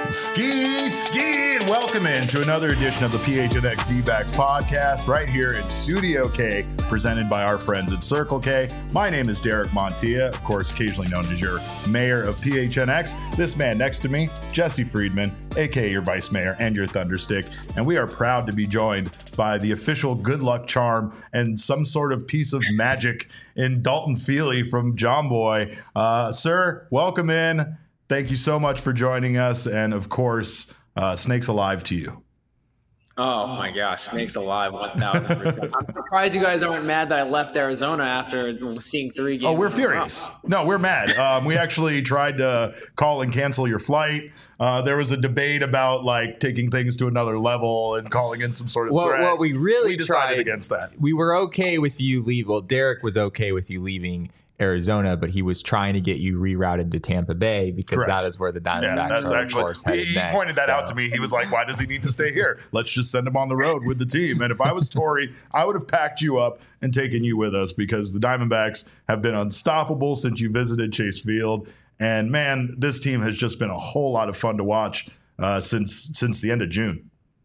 Ski, and welcome into another edition of the PHNX D-Backs podcast right here in Studio K, presented by our friends at Circle K. My name is Derek Montilla, of course, occasionally known as your mayor of PHNX. This man next to me, Jesse Friedman, aka your vice mayor and your thunderstick, and we are proud to be joined by the official good luck charm and some sort of piece of magic in Dalton Feely from John Boy. Sir, welcome in. Thank you so much for joining us. And of course, Snakes Alive to you. Oh my gosh, Snakes Alive 1,000%. I'm surprised you guys aren't mad that I left Arizona after seeing 3 games. Oh, we're furious. No, we're mad. We actually tried to call and cancel your flight. There was a debate about like taking things to another level and calling in some sort of threat. Well, we decided tried against that. We were okay with you leave. Well, Derek was okay with you leaving Arizona, but he was trying to get you rerouted to Tampa Bay because Correct. That is where the Diamondbacks are, of course, headed he next. pointed that out to me. He was like, why does he need to stay here? Let's just send him on the road with the team. And if I was Torey, I would have packed you up and taken you with us because the Diamondbacks have been unstoppable since you visited Chase Field. And man, this team has just been a whole lot of fun to watch since the end of June.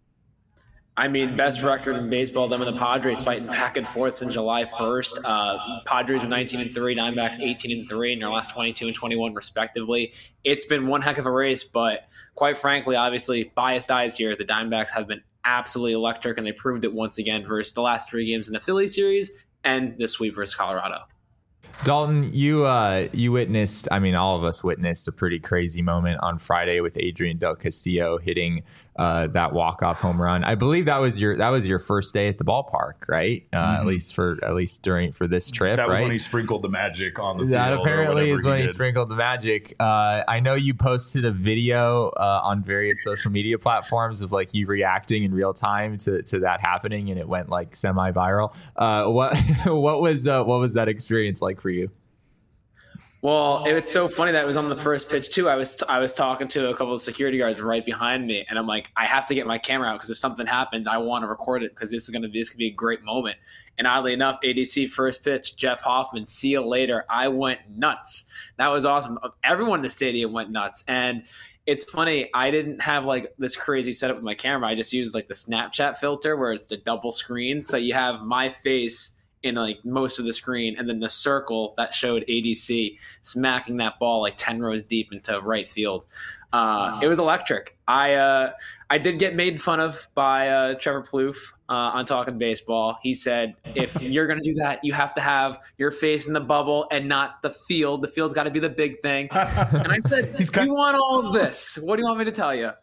I mean, best record in baseball, them and the Padres fighting back and forth since July 1st. Padres are 19-3, Diamondbacks 18-3 in their last 22 and 21 respectively. It's been one heck of a race, but quite frankly, obviously, biased eyes here, the Diamondbacks have been absolutely electric, and they proved it once again versus the last 3 games in the Philly series and the sweep versus Colorado. Dalton, you witnessed, I mean, all of us witnessed a pretty crazy moment on Friday with Adrian Del Castillo hitting that walk-off home run. I believe that was your first day at the ballpark, right? At least for this trip. That was right? when he sprinkled the magic on the field. That apparently is when he sprinkled the magic. I know you posted a video on various social media platforms of like you reacting in real time to that happening, and it went like semi-viral. What was that experience like for you? Well, it was so funny that it was on the first pitch too. I was talking to a couple of security guards right behind me, and I'm like, I have to get my camera out because if something happens, I want to record it because this could be a great moment. And oddly enough, ADC first pitch, Jeff Hoffman, see you later. I went nuts. That was awesome. Everyone in the stadium went nuts, and it's funny. I didn't have like this crazy setup with my camera. I just used like the Snapchat filter where it's the double screen, so you have my face in like most of the screen, and then the circle that showed ADC smacking that ball like 10 rows deep into right field. It was electric. I did get made fun of by Trevor Plouffe on Talking Baseball. He said, if you're going to do that, you have to have your face in the bubble and not the field. The field's got to be the big thing. And I said, you want all of this. What do you want me to tell you?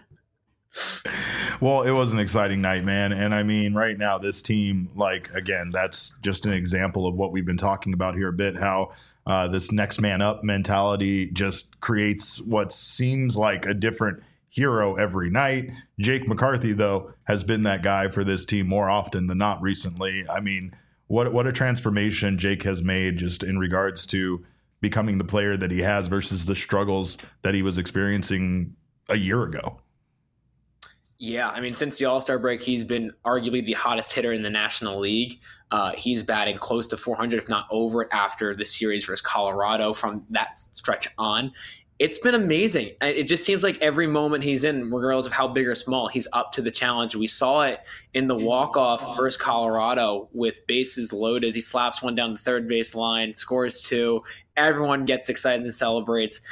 Well, it was an exciting night, man. And I mean, right now, this team, like, again, that's just an example of what we've been talking about here a bit, how this next man up mentality just creates what seems like a different hero every night. Jake McCarthy, though, has been that guy for this team more often than not recently. I mean, what a transformation Jake has made just in regards to becoming the player that he has versus the struggles that he was experiencing a year ago. Yeah, I mean, since the All-Star break, he's been arguably the hottest hitter in the National League. He's batting close to 400, if not over it, after the series versus Colorado from that stretch on. It's been amazing. It just seems like every moment he's in, regardless of how big or small, he's up to the challenge. We saw it in the walk-off versus Colorado with bases loaded. He slaps one down the third base line, scores 2. Everyone gets excited and celebrates.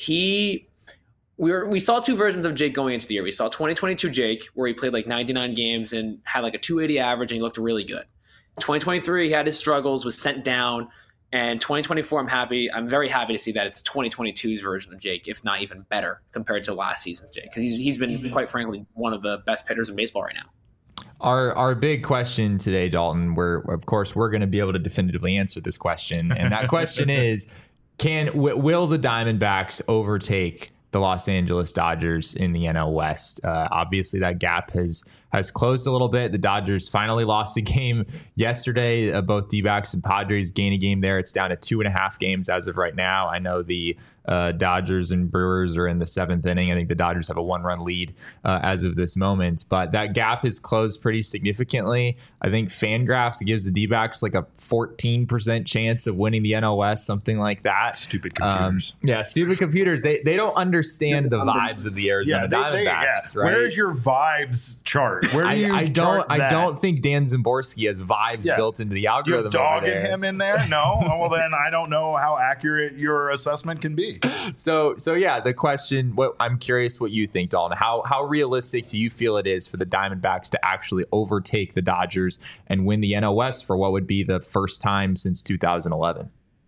We saw 2 versions of Jake going into the year. We saw 2022 Jake, where he played like 99 games and had like a 280 average, and he looked really good. 2023, he had his struggles, was sent down. And 2024, I'm very happy to see that it's 2022's version of Jake, if not even better compared to last season's Jake, because he's been, quite frankly, one of the best hitters in baseball right now. Our big question today, Dalton, we're going to be able to definitively answer this question. And that question is, will the Diamondbacks overtake the Los Angeles Dodgers in the NL West? Obviously, that gap has has closed a little bit. The Dodgers finally lost a game yesterday. Both D-backs and Padres gain a game there. It's down to 2.5 games as of right now. I know the Dodgers and Brewers are in the 7th inning. I think the Dodgers have a 1-run lead as of this moment, but that gap has closed pretty significantly. I think Fangraphs gives the D-backs like a 14% chance of winning the NL West, something like that. Stupid computers. Stupid computers. They don't understand the vibes of the Arizona Diamondbacks. Right? Where's your vibes chart? Where do you I don't think Dan Szymborski has vibes built into the algorithm. You dogging him in there? No. Well, then I don't know how accurate your assessment can be. So yeah, the question, I'm curious what you think, Dalton. How realistic do you feel it is for the Diamondbacks to actually overtake the Dodgers and win the NL West for what would be the first time since 2011?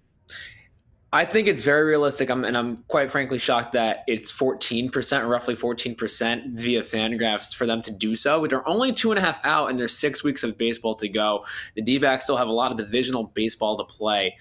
I think it's very realistic. I'm quite frankly shocked that it's 14%, roughly 14% via Fangraphs for them to do so. But they're only 2.5 out, and there's 6 weeks of baseball to go. The D-backs still have a lot of divisional baseball to play.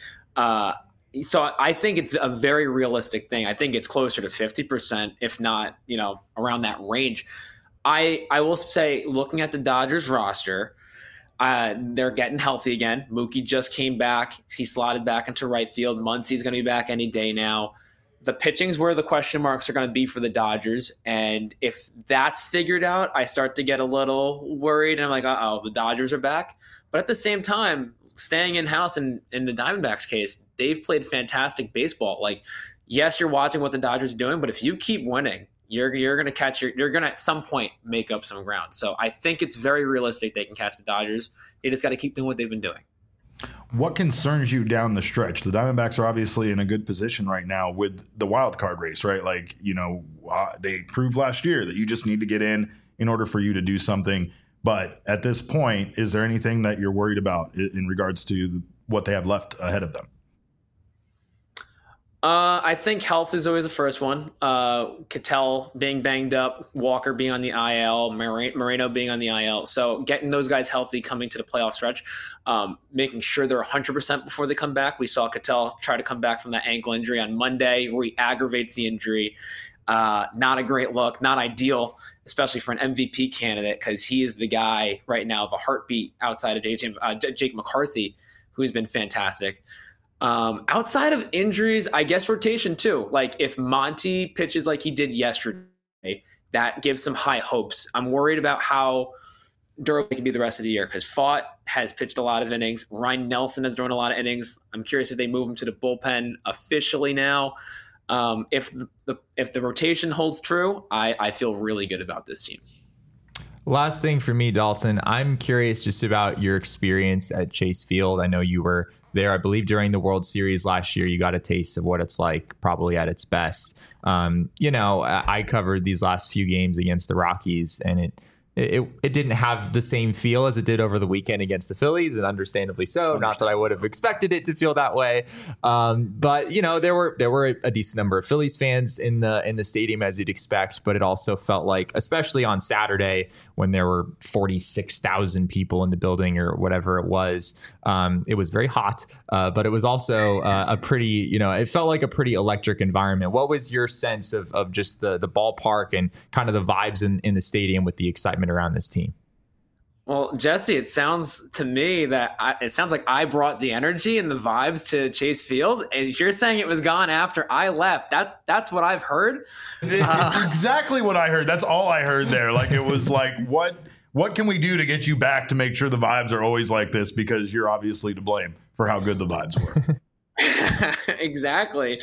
So I think it's a very realistic thing. I think it's closer to 50%, if not, around that range. I will say, looking at the Dodgers roster, they're getting healthy again. Mookie just came back. He slotted back into right field. Muncy's going to be back any day now. The pitching's where the question marks are going to be for the Dodgers. And if that's figured out, I start to get a little worried. And I'm like, the Dodgers are back. But at the same time, staying in-house in the Diamondbacks case, they've played fantastic baseball. Like, yes, you're watching what the Dodgers are doing, but if you keep winning, you're going to you're going to at some point make up some ground. So I think it's very realistic they can catch the Dodgers. They just got to keep doing what they've been doing. What concerns you down the stretch? The Diamondbacks are obviously in a good position right now with the wild card race, right? Like, they proved last year that you just need to get in order for you to do something. But at this point, is there anything that you're worried about in regards to what they have left ahead of them? I think health is always the first one. Ketel being banged up, Walker being on the IL, Moreno being on the IL. So getting those guys healthy coming to the playoff stretch, making sure they're 100% before they come back. We saw Ketel try to come back from that ankle injury on Monday, where he aggravates the injury. Not a great look, not ideal, especially for an MVP candidate, because he is the guy right now, the heartbeat outside of Jake McCarthy, who's been fantastic. Outside of injuries, I guess rotation too. Like, if Monty pitches like he did yesterday, that gives some high hopes. I'm worried about how durable he can be the rest of the year, because Fott has pitched a lot of innings. Ryan Nelson has thrown a lot of innings. I'm curious if they move him to the bullpen officially now. If the rotation holds true, I feel really good about this team. Last thing for me, Dalton, I'm curious just about your experience at Chase Field. I know you were there, I believe, during the World Series last year. You got a taste of what it's like, probably at its best. I covered these last few games against the Rockies, and it didn't have the same feel as it did over the weekend against the Phillies, and understandably so. Not that I would have expected it to feel that way, but there were a decent number of Phillies fans in the stadium, as you'd expect. But it also felt like, especially on Saturday, when there were 46,000 people in the building or whatever it was very hot, but it was also a pretty, it felt like a pretty electric environment. What was your sense of just the ballpark and kind of the vibes in the stadium with the excitement around this team? Well, Jesse, it sounds to me that it sounds like I brought the energy and the vibes to Chase Field, and you're saying it was gone after I left. That's what I've heard. Exactly what I heard. That's all I heard there. Like, it was like, what can we do to get you back to make sure the vibes are always like this? Because you're obviously to blame for how good the vibes were. Exactly.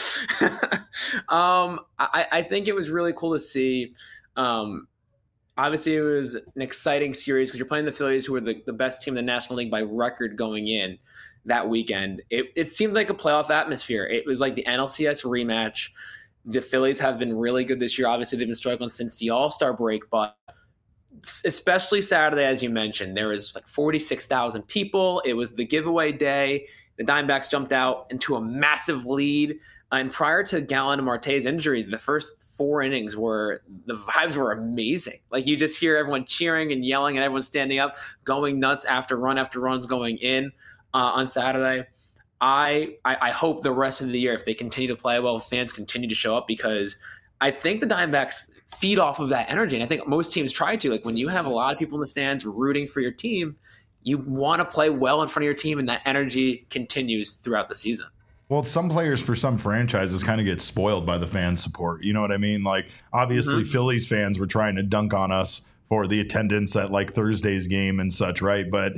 I think it was really cool to see. Obviously, it was an exciting series because you're playing the Phillies, who were the best team in the National League by record going in that weekend. It seemed like a playoff atmosphere. It was like the NLCS rematch. The Phillies have been really good this year. Obviously, they've been struggling since the All-Star break, but especially Saturday, as you mentioned, there was like 46,000 people. It was the giveaway day. The Diamondbacks jumped out into a massive lead. And prior to Gallen and Marte's injury, the first 4 innings the vibes were amazing. Like, you just hear everyone cheering and yelling and everyone standing up, going nuts after runs going in on Saturday. I hope the rest of the year, if they continue to play well, fans continue to show up, because I think the Diamondbacks feed off of that energy. And I think most teams try to. Like when you have a lot of people in the stands rooting for your team, you want to play well in front of your team, and that energy continues throughout the season. Well, some players for some franchises kind of get spoiled by the fan support. You know what I mean? Like, obviously, Phillies fans were trying to dunk on us for the attendance at like Thursday's game and such, right? But,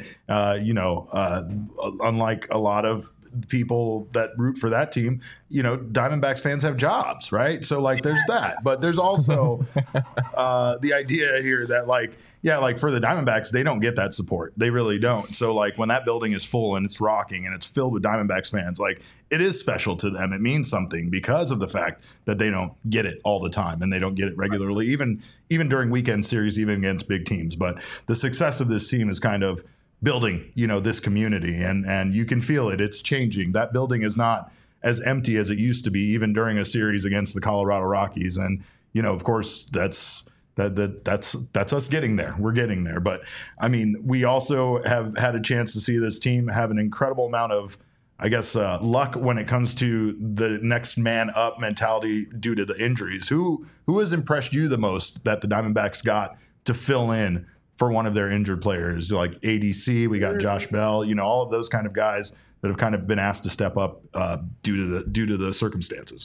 unlike a lot of people that root for that team, Diamondbacks fans have jobs, right? So, like, there's that. But there's also the idea here that, like, for the Diamondbacks, they don't get that support. They really don't. So, like, when that building is full and it's rocking and it's filled with Diamondbacks fans, like, it is special to them. It means something because of the fact that they don't get it all the time and they don't get it regularly, even during weekend series, even against big teams. But the success of this team is kind of building, this community, and you can feel it. It's changing. That building is not as empty as it used to be, even during a series against the Colorado Rockies. And, of course, that's us getting there. We're getting there. But I mean, we also have had a chance to see this team have an incredible amount of, luck when it comes to the next man up mentality due to the injuries. Who has impressed you the most that the Diamondbacks got to fill in for one of their injured players? Like ADC, we got Josh Bell, all of those kind of guys that have kind of been asked to step up due to the circumstances.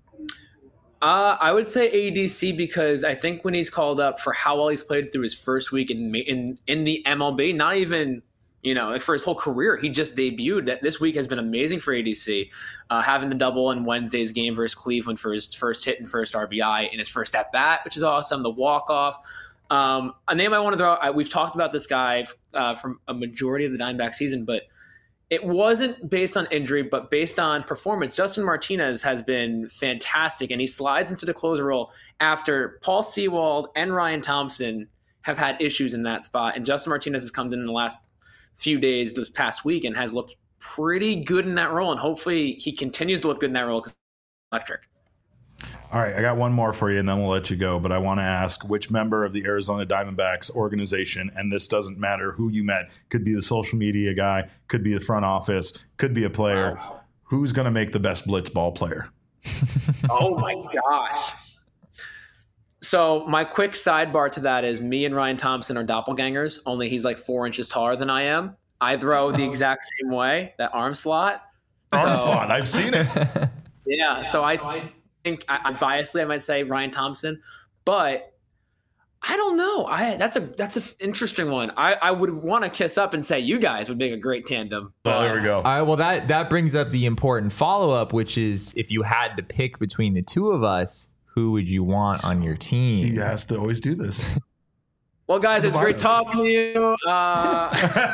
I would say ADC, because I think when he's called up for how well he's played through his first week in the MLB, not even, for his whole career, he just debuted. That this week has been amazing for ADC, having the double in Wednesday's game versus Cleveland for his first hit and first RBI in his first at bat, which is awesome. The walk-off. A name I want to throw, we've talked about this guy from a majority of the Diamondback season, but it wasn't based on injury, but based on performance. Justin Martinez has been fantastic, and he slides into the closer role after Paul Sewald and Ryan Thompson have had issues in that spot. And Justin Martinez has come in the last few days, this past week, and has looked pretty good in that role. And hopefully he continues to look good in that role because it's electric. All right, I got one more for you, and then we'll let you go. But I want to ask which member of the Arizona Diamondbacks organization, and this doesn't matter who you met, could be the social media guy, could be the front office, could be a player, who's going to make the best blitz ball player? Oh, my gosh. So my quick sidebar to that is me and Ryan Thompson are doppelgangers, only he's like 4 inches taller than I am. I throw the exact same way, that arm slot. Slot, I've seen it. Yeah, so I think biasly I might say Ryan Thompson, but I don't know. That's an interesting one. I would want to kiss up and say you guys would make a great tandem. Oh, there we go. All right, well that brings up the important follow-up, which is if you had to pick between the two of us, who would you want on your team? He has to always do this. Well, guys, it's great talking to you. I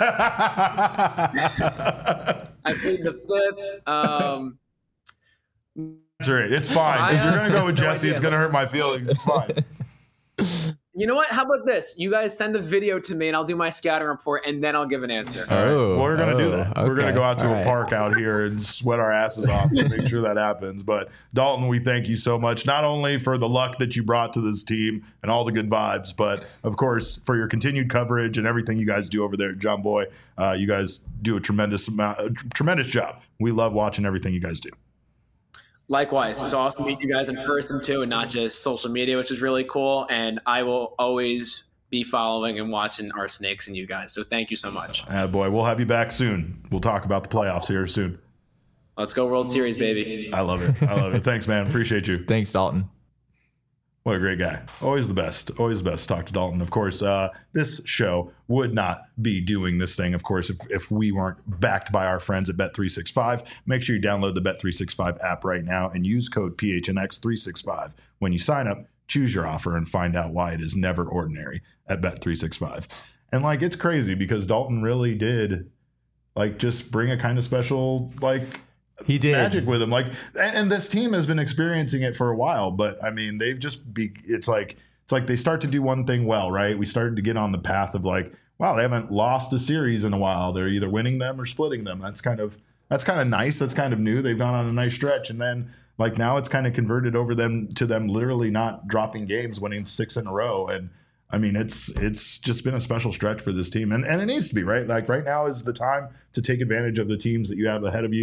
plead the fifth. That's right. It's fine. If you're going to go with Jesse, it's going to hurt my feelings. It's fine. You know what? How about this? You guys send a video to me and I'll do my scouting report and then I'll give an answer. All right. Well, we're going to do that. Okay. We're going to go out to a park out here and sweat our asses off to make sure that happens. But Dalton, we thank you so much, not only for the luck that you brought to this team and all the good vibes, but of course for your continued coverage and everything you guys do over there at John Boy. You guys do a tremendous job. We love watching everything you guys do. Likewise. It's awesome to meet you guys in person too, and not just social media, which is really cool. And I will always be following and watching our Snakes and you guys. So thank you so much. Boy, we'll have you back soon. We'll talk about the playoffs here soon. Let's go World Series, baby. I love it. Thanks, man. Appreciate you. Thanks, Dalton. What a great guy. Always the best. Always the best to talk to Dalton. Of course, this show would not be doing this thing, of course, if we weren't backed by our friends at Bet365. Make sure you download the Bet365 app right now and use code PHNX365. When you sign up, choose your offer and find out why it is never ordinary at Bet365. And, it's crazy because Dalton really did, just bring a kind of special, he did magic with him, and this team has been experiencing it for a while. But I mean, they've just it's like they start to do one thing well, right? We started to get on the path of wow, they haven't lost a series in a while. They're either winning them or splitting them. That's kind of nice. That's kind of new. They've gone on a nice stretch, and then now it's kind of converted over to them literally not dropping games, winning 6 in a row. And I mean, it's just been a special stretch for this team, and it needs to be, right? Right now is the time to take advantage of the teams that you have ahead of you.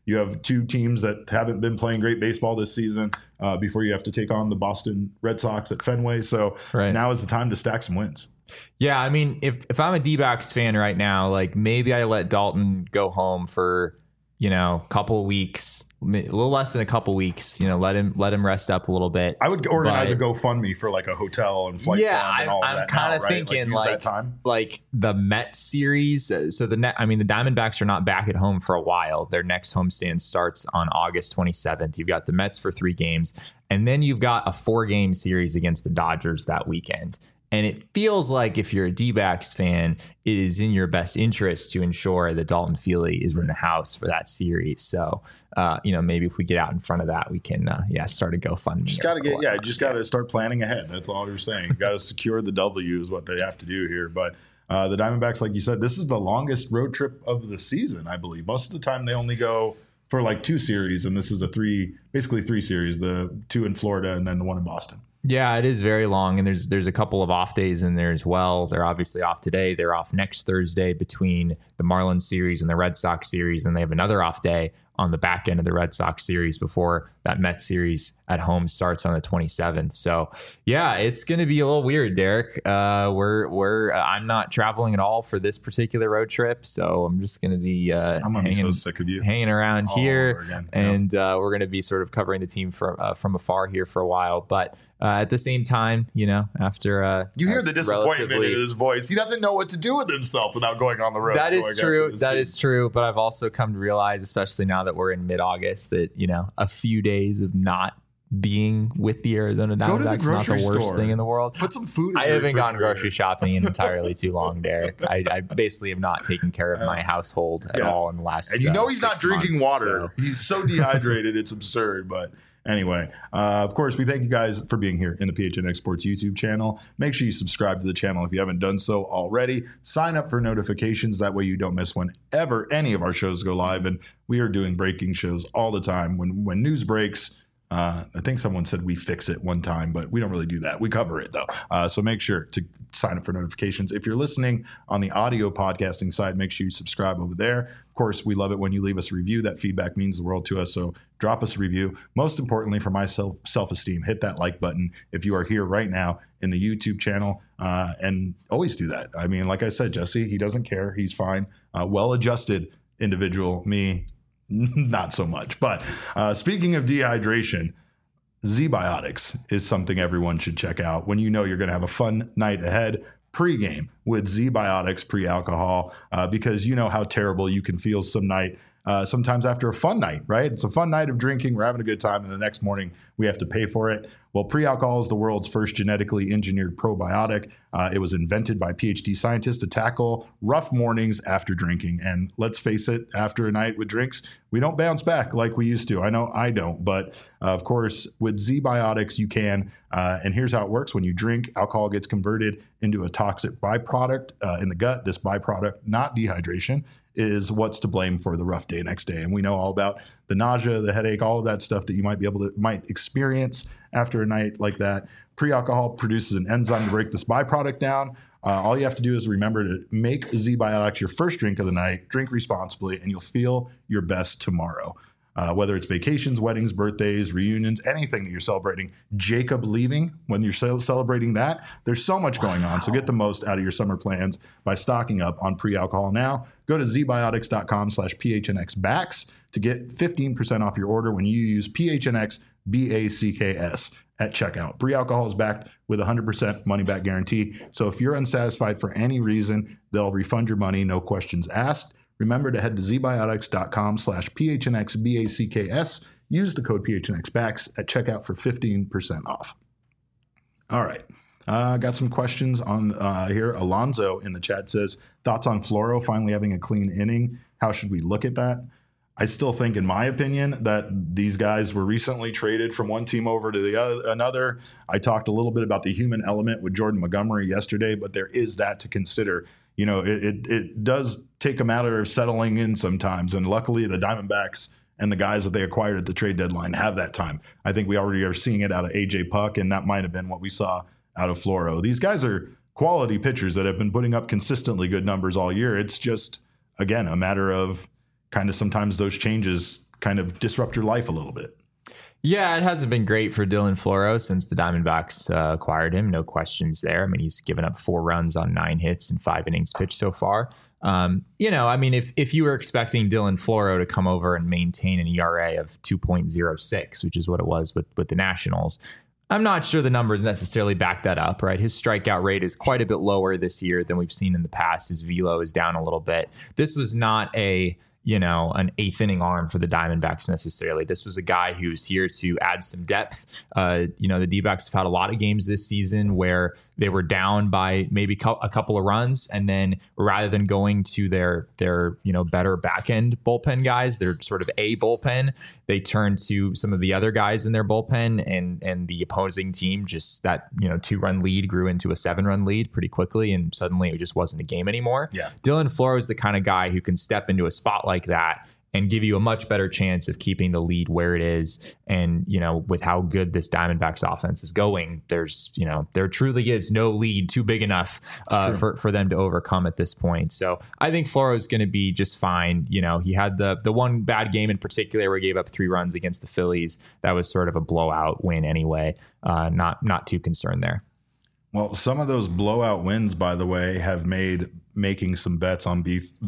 You have two teams that haven't been playing great baseball this season before you have to take on the Boston Red Sox at Fenway. So now is the time to stack some wins. Yeah, I mean, if I'm a D-backs fan right now, like maybe I let Dalton go home for, a couple of weeks, a little less than a couple weeks, let him rest up a little bit. I would organize a GoFundMe for like a hotel and flight fund and all of that. I'm kind of thinking like the Mets series. So the Diamondbacks are not back at home for a while. Their next homestand starts on August 27th. You've got the Mets for 3 games, and then you've got a 4-game series against the Dodgers that weekend. And it feels like if you're a D-backs fan, it is in your best interest to ensure that Dalton Feely is in the house for that series. So, maybe if we get out in front of that, we can, start a GoFundMe. Just got to start planning ahead. That's all you're saying. You got to secure the W is what they have to do here. But the Diamondbacks, like you said, this is the longest road trip of the season, I believe. Most of the time they only go for like 2 series, and this is basically 3 series, the 2 in Florida and then the 1 in Boston. Yeah, it is very long, and there's a couple of off days in there as well. They're obviously off today. They're off next Thursday between the Marlins series and the Red Sox series, and they have another off day on the back end of the Red Sox series before that Mets series at home starts on the 27th. So yeah, it's going to be a little weird, Derek. I'm not traveling at all for this particular road trip, so I'm just going to be I'm gonna be so sick of you hanging around here, and we're going to be sort of covering the team from afar here for a while. But at the same time, after you hear the disappointment in his voice, he doesn't know what to do with himself without going on the road. That is true. That is true. But I've also come to realize, especially now that we're in mid-August, that a few days of not being with the Arizona Diamondbacks is not the worst thing in the world. Put some food in I haven't gone grocery shopping in entirely too long, Derek. I basically have not taken care of my household at all in the last And he's not drinking water. So. He's so dehydrated, it's absurd. But anyway, of course, we thank you guys for being here in the PHNX Sports YouTube channel. Make sure you subscribe to the channel if you haven't done so already. Sign up for notifications. That way you don't miss whenever any of our shows go live. And we are doing breaking shows all the time. When news breaks, I think someone said we fix it one time, but we don't really do that. We cover it, though. So make sure to sign up for notifications. If you're listening on the audio podcasting side, make sure you subscribe over there. Of course, we love it when you leave us a review. That feedback means the world to us. So drop us a review. Most importantly, for my self-esteem, hit that like button if you are here right now in the YouTube channel, and always do that. I mean, like I said, Jesse, he doesn't care. He's fine. Well-adjusted individual. Me, not so much. But speaking of dehydration, ZBiotics is something everyone should check out when you're going to have a fun night ahead pregame with ZBiotics pre-alcohol, because you know how terrible you can feel sometimes after a fun night, right? It's a fun night of drinking. We're having a good time. And the next morning we have to pay for it. Well, pre-alcohol is the world's first genetically engineered probiotic. It was invented by PhD scientists to tackle rough mornings after drinking. And let's face it, after a night with drinks, we don't bounce back like we used to. I know I don't, but of course, with ZBiotics, you can. And here's how it works. When you drink, alcohol gets converted into a toxic byproduct in the gut. This byproduct, not dehydration, is what's to blame for the rough day next day. And we know all about the nausea, the headache, all of that stuff that you might experience after a night like that. Pre-alcohol produces an enzyme to break this byproduct down. All you have to do is remember to make ZBiotics your first drink of the night, drink responsibly, and you'll feel your best tomorrow. Whether it's vacations, weddings, birthdays, reunions, anything that you're celebrating. Jacob leaving, when you're celebrating that, there's so much going on. So get the most out of your summer plans by stocking up on pre-alcohol now. Go to zbiotics.com/PHNXBACKS to get 15% off your order when you use PHNXBACKS at checkout. Pre-alcohol is backed with a 100% money-back guarantee. So if you're unsatisfied for any reason, they'll refund your money, no questions asked. Remember to head to zbiotics.com/PHNXBACKS. Use the code PHNXBACKS at checkout for 15% off. All right. Got some questions on here. Alonzo in the chat says, thoughts on Floro finally having a clean inning? How should we look at that? I still think, in my opinion, that these guys were recently traded from one team over to another. I talked a little bit about the human element with Jordan Montgomery yesterday, but there is that to consider. It does take a matter of settling in sometimes. And luckily, the Diamondbacks and the guys that they acquired at the trade deadline have that time. I think we already are seeing it out of A.J. Puck, and that might have been what we saw out of Floro. These guys are quality pitchers that have been putting up consistently good numbers all year. It's just, again, a matter of kind of sometimes those changes kind of disrupt your life a little bit. Yeah, it hasn't been great for Dylan Floro since the Diamondbacks acquired him. No questions there. I mean, he's given up 4 runs on 9 hits and 5 innings pitched so far. If you were expecting Dylan Floro to come over and maintain an ERA of 2.06, which is what it was with the Nationals, I'm not sure the numbers necessarily back that up, right? His strikeout rate is quite a bit lower this year than we've seen in the past. His velo is down a little bit. This was not an 8th inning arm for the Diamondbacks necessarily. This was a guy who's here to add some depth. The D-backs have had a lot of games this season where they were down by maybe a couple of runs, and then rather than going to their better back end bullpen guys, their sort of A bullpen, they turned to some of the other guys in their bullpen, and the opposing team just that 2-run lead grew into a 7-run lead pretty quickly, and suddenly it just wasn't a game anymore. Yeah. Dylan Floro is the kind of guy who can step into a spot like that and give you a much better chance of keeping the lead where it is. And, with how good this Diamondbacks offense is going, there truly is no lead too big enough for them to overcome at this point. So I think Floro is going to be just fine. He had the one bad game in particular where he gave up 3 runs against the Phillies. That was sort of a blowout win anyway. Not too concerned there. Well, some of those blowout wins, by the way, have made making some bets on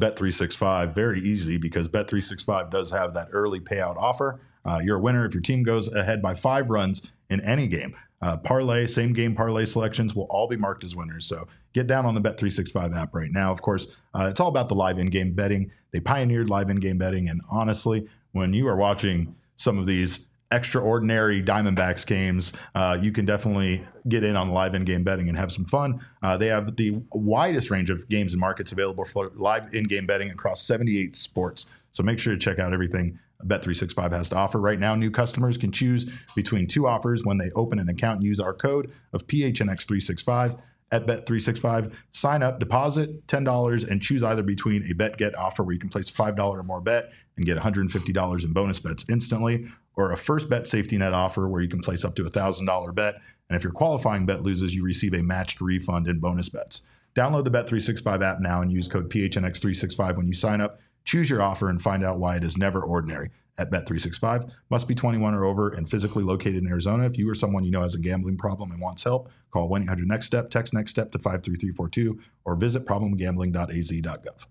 Bet365 very easy, because Bet365 does have that early payout offer. You're a winner if your team goes ahead by 5 runs in any game. Parlay, same game parlay selections will all be marked as winners. So get down on the Bet365 app right now. Of course, it's all about the live in-game betting. They pioneered live in-game betting. And honestly, when you are watching some of these extraordinary Diamondbacks games, you can definitely get in on live in-game betting and have some fun. They have the widest range of games and markets available for live in-game betting across 78 sports. So make sure to check out everything Bet365 has to offer. Right now, new customers can choose between 2 offers when they open an account and use our code of PHNX365 at Bet365. Sign up, deposit $10, and choose either between a bet-get offer where you can place a $5 or more bet and get $150 in bonus bets instantly, or a first bet safety net offer where you can place up to a $1,000 bet. And if your qualifying bet loses, you receive a matched refund in bonus bets. Download the Bet365 app now and use code PHNX365 when you sign up. Choose your offer and find out why it is never ordinary at Bet365. Must be 21 or over and physically located in Arizona. If you or someone you know has a gambling problem and wants help, call 1-800-NEXT-STEP, text NEXT STEP to 53342, or visit problemgambling.az.gov.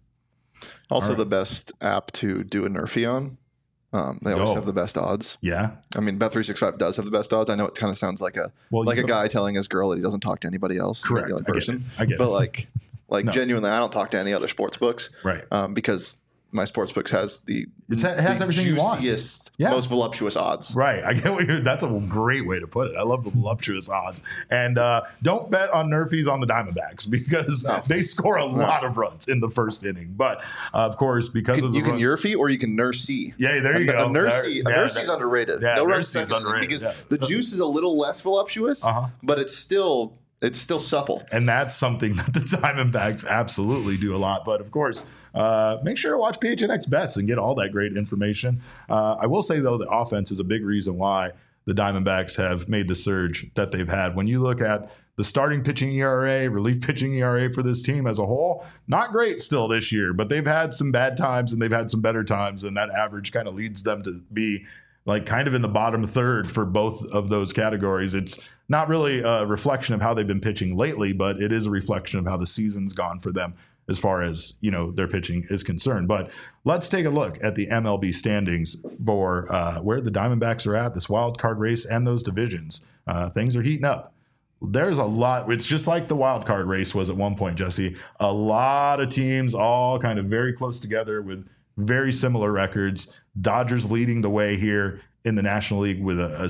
Also, right. The best app to do a Nerfy on. They always have the best odds. Yeah. I mean, Bet365 does have the best odds. I know it kind of sounds like a guy telling his girl that he doesn't talk to anybody else. Correct. The other person. I get it. But No. Genuinely, I don't talk to any other sports books. Right. Because my sports books has it has everything you want. Juiciest, Yeah. most voluptuous odds. Right. I get what that's a great way to put it. I love the voluptuous odds. And don't bet on Nerfies on the Diamondbacks, because they score a lot of runs in the first inning. But of course, because of the you can Nerfy or you can Nursey. Yeah, there you go. A Nursey's underrated. Yeah, No run Nursey's second, underrated, because yeah. the juice is a little less voluptuous, but it's still supple. And that's something that the Diamondbacks absolutely do a lot. But of course, make sure to watch PHNX Bets and get all that great information. I will say, though, the offense is a big reason why the Diamondbacks have made the surge that they've had. When you look at the starting pitching ERA, relief pitching ERA for this team as a whole, not great still this year, but they've had some bad times and they've had some better times. And that average kind of leads them to be like kind of in the bottom third for both of those categories. It's not really a reflection of how they've been pitching lately, but it is a reflection of how the season's gone for them as far as, their pitching is concerned. But let's take a look at the MLB standings for where the Diamondbacks are at, this wild card race and those divisions. Things are heating up. There's a lot. It's just like the wild card race was at one point, Jesse. A lot of teams all kind of very close together with very similar records. Dodgers leading the way here in the National League with a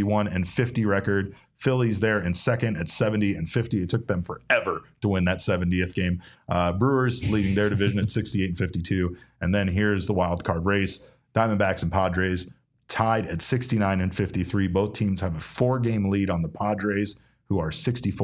71-50 record. Phillies there in second at 70-50. It took them forever to win that 70th game. Brewers leading their division at 68-52. And then here's the wild card race. Diamondbacks and Padres tied at 69-53. Both teams have a 4-game lead on the Padres, who are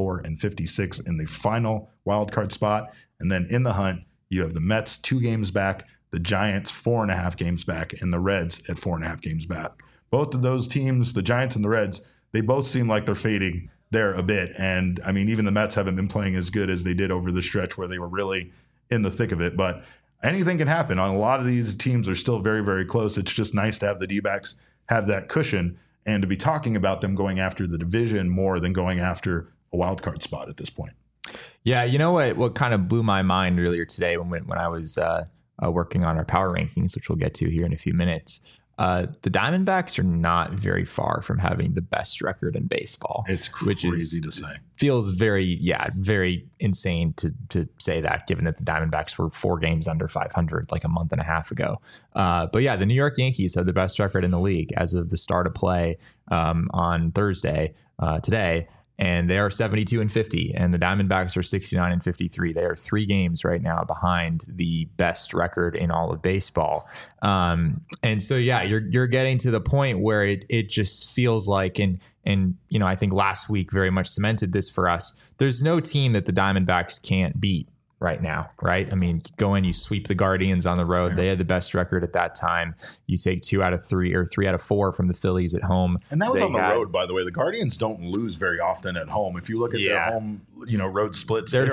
64-56 in the final wild card spot. And then in the hunt, you have the Mets 2 games back, the Giants 4.5 games back, and the Reds at 4.5 games back. Both of those teams, the Giants and the Reds, they both seem like they're fading there a bit. And I mean, even the Mets haven't been playing as good as they did over the stretch where they were really in the thick of it. But anything can happen. On a lot of these teams are still very, very close. It's just nice to have the D-backs have that cushion and to be talking about them going after the division more than going after a wild card spot at this point. Yeah, you know what kind of blew my mind earlier today when I was working on our power rankings, which we'll get to here in a few minutes. The Diamondbacks are not very far from having the best record in baseball. It's crazy to say. Feels very insane to say that, given that the Diamondbacks were 4 games under 500 like a month and a half ago. But yeah, the New York Yankees have the best record in the league as of the start of play on Thursday today. And they are 72-50, and the Diamondbacks are 69-53. They are 3 games right now behind the best record in all of baseball. And so, yeah, you're getting to the point where it just feels like, and you know, I think last week very much cemented this for us. There's no team that the Diamondbacks can't beat right now, right? I mean, you go in, you sweep the Guardians on the road. They had the best record at that time. You take 2 out of 3 or 3 out of 4 from the Phillies at home. And that was on the road, by the way. The Guardians don't lose very often at home. If you look at their home, road splits, they're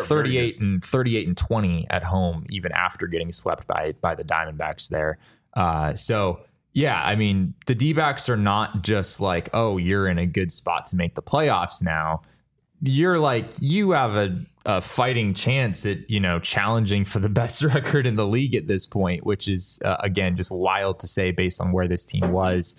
38-20 at home, even after getting swept by the Diamondbacks there. So yeah, I mean, the D-backs are not just like, oh, you're in a good spot to make the playoffs now. You're like, you have a fighting chance at, challenging for the best record in the league at this point, which is, again, just wild to say based on where this team was,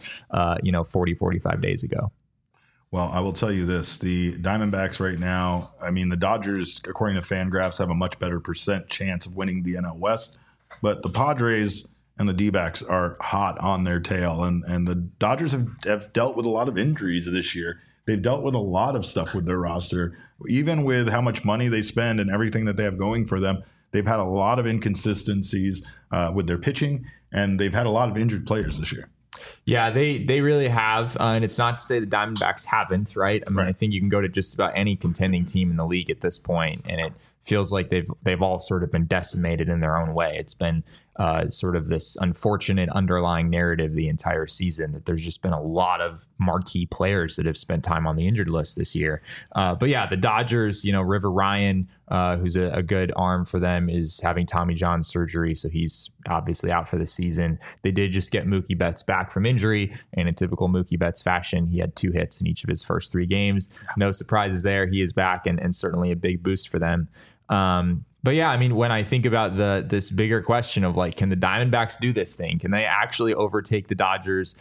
45 days ago. Well, I will tell you this. The Diamondbacks right now, I mean, the Dodgers, according to FanGraphs, have a much better % chance of winning the NL West. But the Padres and the D-backs are hot on their tail. And the Dodgers have dealt with a lot of injuries this year. They've dealt with a lot of stuff with their roster, even with how much money they spend and everything that they have going for them. They've had a lot of inconsistencies with their pitching, and they've had a lot of injured players this year. Yeah, they really have. And it's not to say the Diamondbacks haven't, right? I mean, I think you can go to just about any contending team in the league at this point, and it feels like they've all sort of been decimated in their own way. It's been sort of this unfortunate underlying narrative the entire season that there's just been a lot of marquee players that have spent time on the injured list this year. But yeah, the Dodgers, River Ryan, who's a good arm for them, is having Tommy John surgery. So he's obviously out for the season. They did just get Mookie Betts back from injury, and in typical Mookie Betts fashion, he had 2 hits in each of his first 3 games. No surprises there. He is back and certainly a big boost for them. But yeah, I mean, when I think about this bigger question of like, can the Diamondbacks do this thing? Can they actually overtake the Dodgers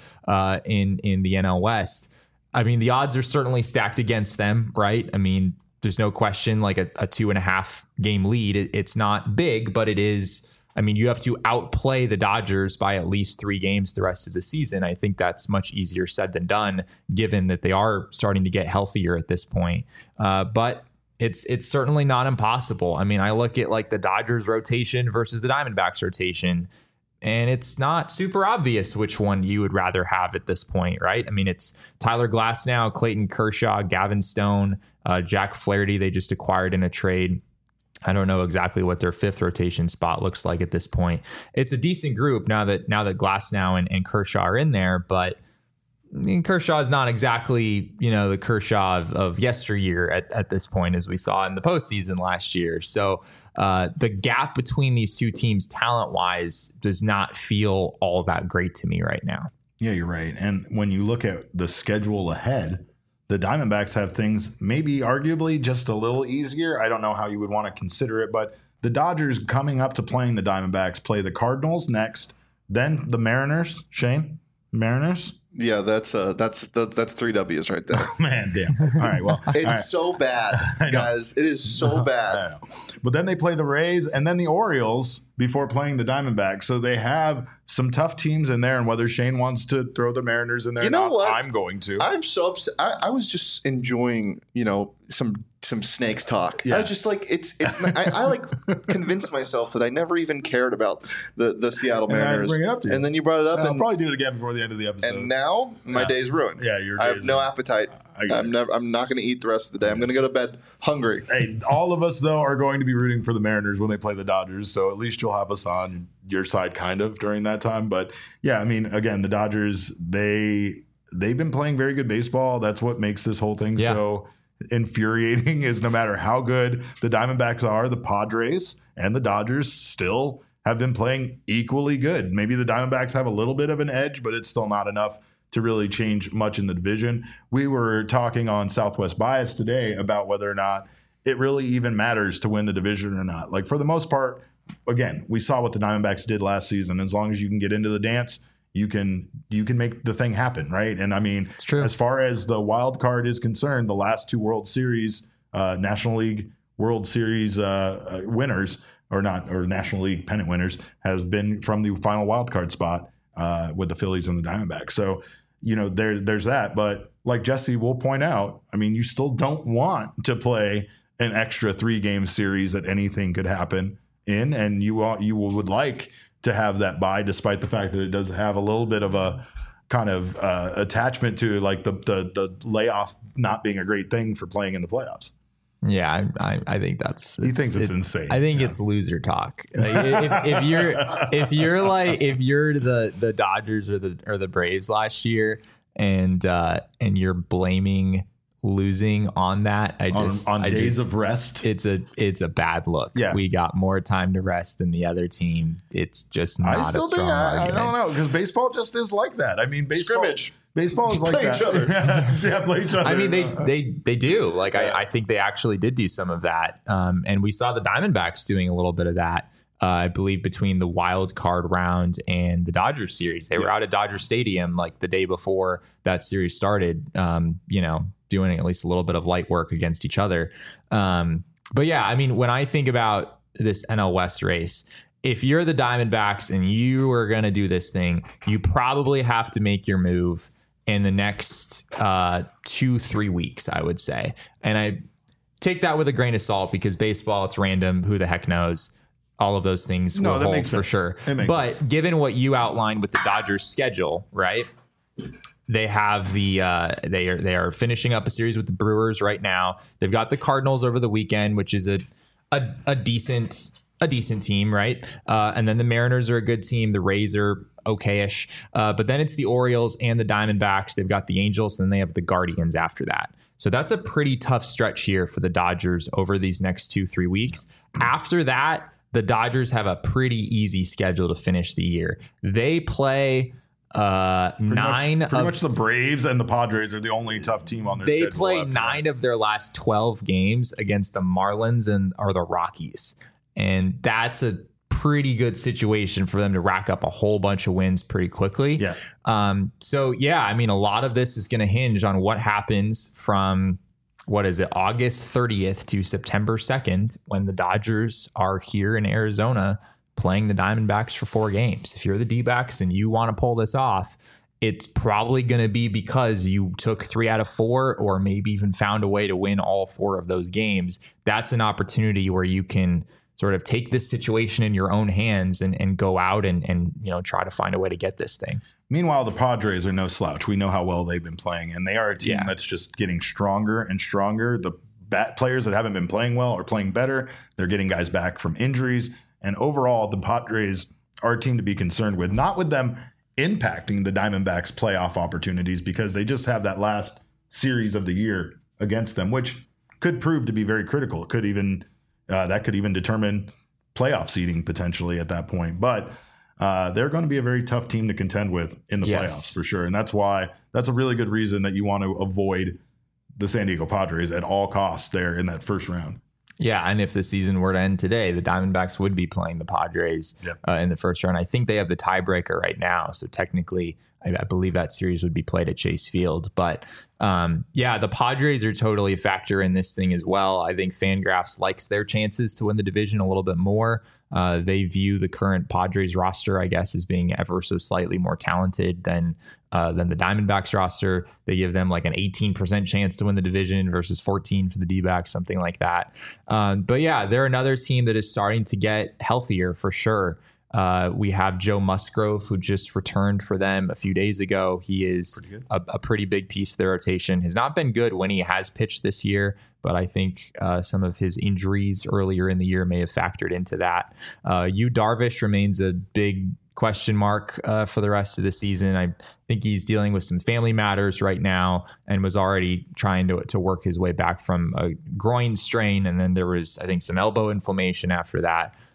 in the NL West? I mean, the odds are certainly stacked against them, right? I mean, there's no question, like a 2.5 game lead. It's not big, but it is. I mean, you have to outplay the Dodgers by at least 3 games the rest of the season. I think that's much easier said than done, given that they are starting to get healthier at this point. But it's certainly not impossible. I mean, I look at like the Dodgers rotation versus the Diamondbacks rotation, and it's not super obvious which one you would rather have at this point, right? I mean, it's Tyler Glasnow, Clayton Kershaw, Gavin Stone, Jack Flaherty they just acquired in a trade. I don't know exactly what their 5th rotation spot looks like at this point. It's a decent group now that Glasnow and Kershaw are in there, but I mean, Kershaw is not exactly, the Kershaw of yesteryear at this point, as we saw in the postseason last year. So the gap between these two teams talent-wise does not feel all that great to me right now. Yeah, you're right. And when you look at the schedule ahead, the Diamondbacks have things maybe arguably just a little easier. I don't know how you would want to consider it, but the Dodgers coming up to playing the Diamondbacks play the Cardinals next, then the Mariners. Shane, Mariners? Yeah, that's 3 W's right there. Oh, man, damn. All right, well. It's so bad, guys. It is so bad. I know. But then they play the Rays and then the Orioles before playing the Diamondbacks. So they have some tough teams in there, and whether Shane wants to throw the Mariners in there or not, what? I'm going to. I'm so upset. I was just enjoying, some snakes talk. Yeah. I was just like, I like convinced myself that I never even cared about the Seattle Mariners. Bring it up to you. And then you brought it up. I'll probably do it again before the end of the episode. And now my day's ruined. Yeah, I have no appetite. I'm not going to eat the rest of the day. I'm going to go to bed hungry. Hey, all of us though are going to be rooting for the Mariners when they play the Dodgers. So at least you'll have us on your side kind of during that time. But yeah, I mean, again, the Dodgers, they've been playing very good baseball. That's what makes this whole thing so infuriating, is no matter how good the Diamondbacks are, the Padres and the Dodgers still have been playing equally good. Maybe the Diamondbacks have a little bit of an edge, but it's still not enough to really change much in the division. We were talking on Southwest Bias today about whether or not it really even matters to win the division or not. Like, for the most part, again, we saw what the Diamondbacks did last season. As long as you can get into the dance, you can make the thing happen, right? And I mean, it's true. As far as the wild card is concerned, the last two World Series, National League World Series winners, or National League pennant winners, has been from the final wild card spot with the Phillies and the Diamondbacks. So, there's that. But like Jesse will point out, I mean, you still don't want to play an extra 3-game series that anything could happen in, and you would like to have that bye, despite the fact that it does have a little bit of a kind of attachment to like the layoff not being a great thing for playing in the playoffs. Yeah, I think that's. He thinks it's insane. I think it's loser talk. Like, if you're the Dodgers or the Braves last year, and you're blaming losing on that, on days of rest, it's a bad look. Yeah, we got more time to rest than the other team. It's just not a strong argument. I don't know, because baseball just is like that. I mean, scrimmage. Baseball is like play that. Each other. Yeah, play each other. I mean, they do. Like, yeah. I think they actually did do some of that. And we saw the Diamondbacks doing a little bit of that, I believe, between the wild card round and the Dodgers series. They were out at Dodger Stadium like the day before that series started, doing at least a little bit of light work against each other. But yeah, I mean, when I think about this NL West race, if you're the Diamondbacks and you are going to do this thing, you probably have to make your move in the next 2-3 weeks, I would say. And I take that with a grain of salt, because baseball, it's random. Who the heck knows? All of those things will hold for sure. But given what you outlined with the Dodgers schedule, right? They have they are finishing up a series with the Brewers right now. They've got the Cardinals over the weekend, which is a decent team, right? And then the Mariners are a good team. The Rays are okay-ish. But then it's the Orioles and the Diamondbacks. They've got the Angels, and then they have the Guardians after that. So that's a pretty tough stretch here for the Dodgers over these next 2-3 weeks. After that, the Dodgers have a pretty easy schedule to finish the year. They play pretty much the Braves and the Padres are the only tough team on their schedule. They play 9 of their last 12 games against the Marlins or the Rockies. And that's a pretty good situation for them to rack up a whole bunch of wins pretty quickly. Yeah. So yeah, I mean, a lot of this is going to hinge on what happens from, August 30th to September 2nd, when the Dodgers are here in Arizona playing the Diamondbacks for 4 games. If you're the D-backs and you want to pull this off, it's probably going to be because you took 3 out of 4, or maybe even found a way to win all 4 of those games. That's an opportunity where you can sort of take this situation in your own hands and go out and try to find a way to get this thing. Meanwhile, the Padres are no slouch. We know how well they've been playing, and they are a team that's just getting stronger and stronger. The players that haven't been playing well are playing better. They're getting guys back from injuries. And overall, the Padres are a team to be concerned with, not with them impacting the Diamondbacks' playoff opportunities, because they just have that last series of the year against them, which could prove to be very critical. It could even that could even determine playoff seeding potentially at that point. But they're going to be a very tough team to contend with in the playoffs for sure. And that's a really good reason that you want to avoid the San Diego Padres at all costs there in that first round. Yeah, and if the season were to end today, the Diamondbacks would be playing the Padres in the first round. I think they have the tiebreaker right now, so technically I believe that series would be played at Chase Field. But the Padres are totally a factor in this thing as well. I think Fangraphs likes their chances to win the division a little bit more. They view the current Padres roster, I guess, as being ever so slightly more talented than the Diamondbacks roster. They give them like an 18% chance to win the division versus 14 for the D-backs, something like that. But yeah, they're another team that is starting to get healthier for sure. We have Joe Musgrove, who just returned for them a few days ago. He is a pretty big piece of their rotation. Has not been good when he has pitched this year, but I think some of his injuries earlier in the year may have factored into that. Yu Darvish remains a big question mark for the rest of the season. I think he's dealing with some family matters right now and was already trying to work his way back from a groin strain. And then there was, I think, some elbow inflammation after that.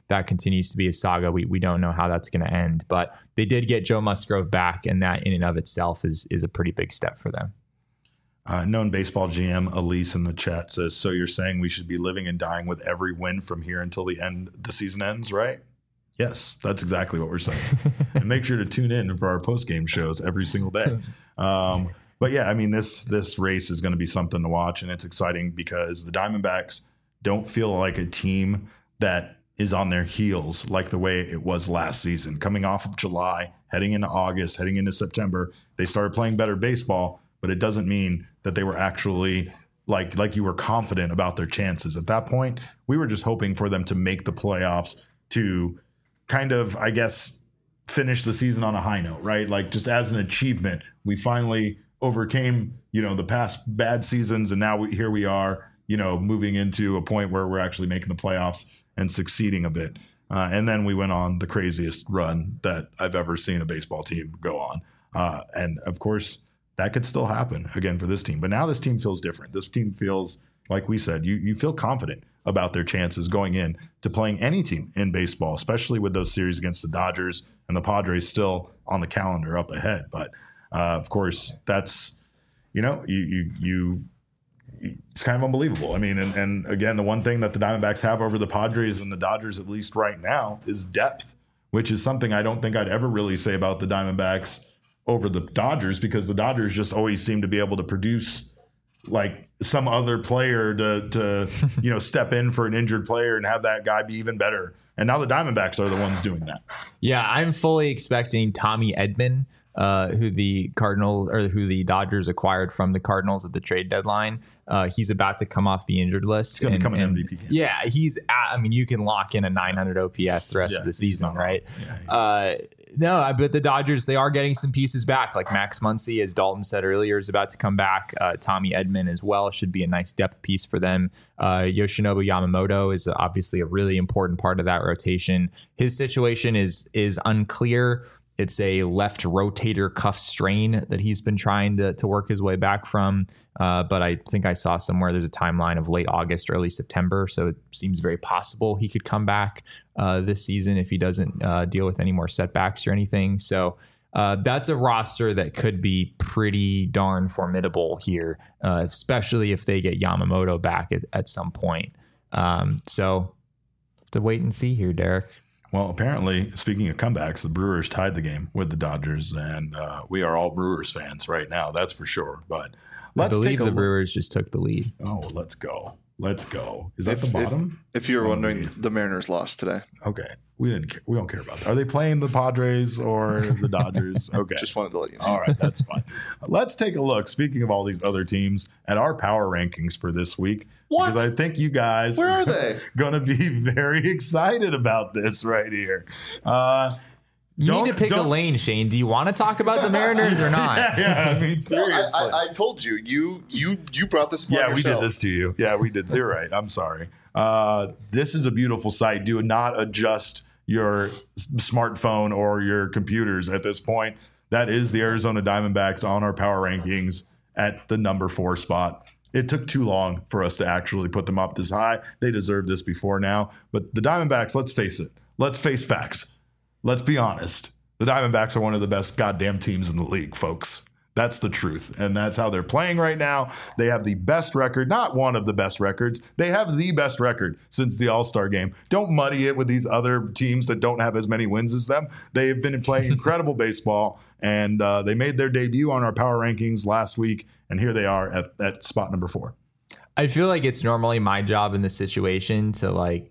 that continues to be a saga. We don't know how that's going to end, but they did get Joe Musgrove back, and that in and of itself is a pretty big step for them. Known baseball GM Elise in the chat says, so you're saying we should be living and dying with every win from here until the season ends, right? Yes, that's exactly what we're saying. And make sure to tune in for our post-game shows every single day. But yeah, I mean, this race is going to be something to watch, and it's exciting because the Diamondbacks don't feel like a team that is on their heels like the way it was last season. Coming off of July, heading into August, heading into September, they started playing better baseball, but it doesn't mean that they were actually like you were confident about their chances. At that point, we were just hoping for them to make the playoffs to kind of, I guess, finish the season on a high note, right? Like just as an achievement, we finally overcame, the past bad seasons. And now here we are, moving into a point where we're actually making the playoffs and succeeding a bit. And then we went on the craziest run that I've ever seen a baseball team go on. And of course, that could still happen again for this team. But now this team feels different. This team feels, like we said, you feel confident about their chances going in to playing any team in baseball, especially with those series against the Dodgers and the Padres still on the calendar up ahead. But of course, that's, it's kind of unbelievable. I mean, and again, the one thing that the Diamondbacks have over the Padres and the Dodgers, at least right now, is depth, which is something I don't think I'd ever really say about the Diamondbacks over the Dodgers, because the Dodgers just always seem to be able to produce like some other player to step in for an injured player and have that guy be even better. And now the Diamondbacks are the ones doing that. Yeah, I'm fully expecting Tommy Edman, who the Dodgers acquired from the Cardinals at the trade deadline. He's about to come off the injured list. He's going to become an MVP candidate. Yeah, you can lock in a 900 OPS the rest of the season, right? Yeah, no, but the Dodgers, they are getting some pieces back. Like Max Muncy, as Dalton said earlier, is about to come back. Tommy Edman as well should be a nice depth piece for them. Yoshinobu Yamamoto is obviously a really important part of that rotation. His situation is unclear. It's a left rotator cuff strain that he's been trying to work his way back from. But I think I saw somewhere there's a timeline of late August, early September. So it seems very possible he could come back this season if he doesn't deal with any more setbacks or anything. So that's a roster that could be pretty darn formidable here, especially if they get Yamamoto back at some point. So to wait and see here, Derek. Well, apparently, speaking of comebacks, the Brewers tied the game with the Dodgers, and we are all Brewers fans right now. That's for sure. But I believe the Brewers just took the lead. Oh, let's go. Let's go. Is that the bottom? If you were wondering, the Mariners lost today. Okay. We don't care about that. Are they playing the Padres or the Dodgers? Okay. Just wanted to let you know. All right. That's fine. Let's take a look, speaking of all these other teams, at our power rankings for this week. What? Because I think you guys are going to be very excited about this right here. You need to pick a lane, Shane. Do you want to talk about the Mariners or not? Yeah, I mean, seriously. I told you. You brought this upon yourself. We did this to you. Yeah, we did. You're right. I'm sorry. This is a beautiful sight. Do not adjust your smartphone or your computers at this point. That is the Arizona Diamondbacks on our power rankings at the number 4 spot. It took too long for us to actually put them up this high. They deserved this before now. But the Diamondbacks, let's face it. Let's face facts. Let's be honest. The Diamondbacks are one of the best goddamn teams in the league, folks. That's the truth. And that's how they're playing right now. They have the best record, not one of the best records. They have the best record since the All-Star game. Don't muddy it with these other teams that don't have as many wins as them. They have been playing incredible baseball, and they made their debut on our power rankings last week, and here they are at spot number 4. I feel like it's normally my job in this situation to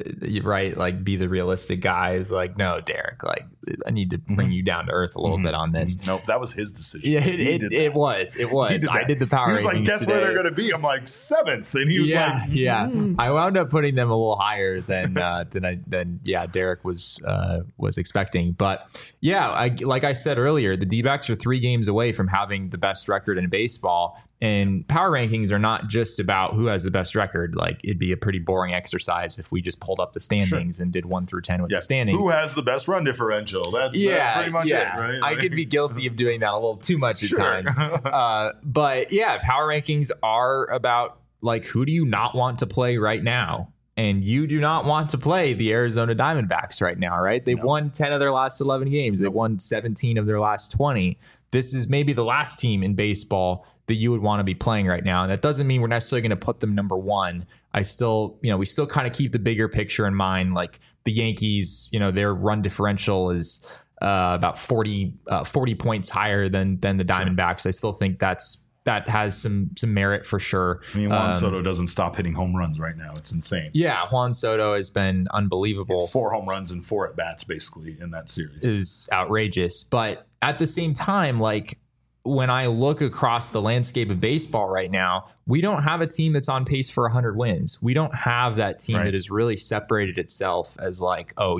be the realistic guy who's like, no, Derek, I need to bring you down to earth a little bit on this. Nope, that was his decision. Yeah, it was. I did the power rankings. He was like, guess today. Where they're going to be? I'm like, 7th, and he was I wound up putting them a little higher than Derek was expecting. But yeah, like I said earlier, the D-backs are 3 games away from having the best record in baseball. And power rankings are not just about who has the best record. Like, it'd be a pretty boring exercise if we just pulled up the standings and did 1 through 10 with the standings. Who has the best run differential? That's pretty much it, right? I could be guilty of doing that a little too much at times. But yeah, power rankings are about, like, who do you not want to play right now? and you do not want to play the Arizona Diamondbacks right now, right? They've won 10 of their last 11 games. They've won 17 of their last 20. This is maybe the last team in baseball that you would want to be playing right now. And that doesn't mean we're necessarily going to put them number one. We still kind of keep the bigger picture in mind. Like the Yankees, their run differential is about 40 points higher than the Diamondbacks. I still think that has some merit for sure. I mean, Juan Soto doesn't stop hitting home runs right now. It's insane. Yeah, Juan Soto has been unbelievable. 4 home runs and 4 at-bats basically in that series. It was outrageous. But at the same time, like when I look across the landscape of baseball right now, we don't have a team that's on pace for 100 wins. We don't have that team that has really separated itself as like, oh,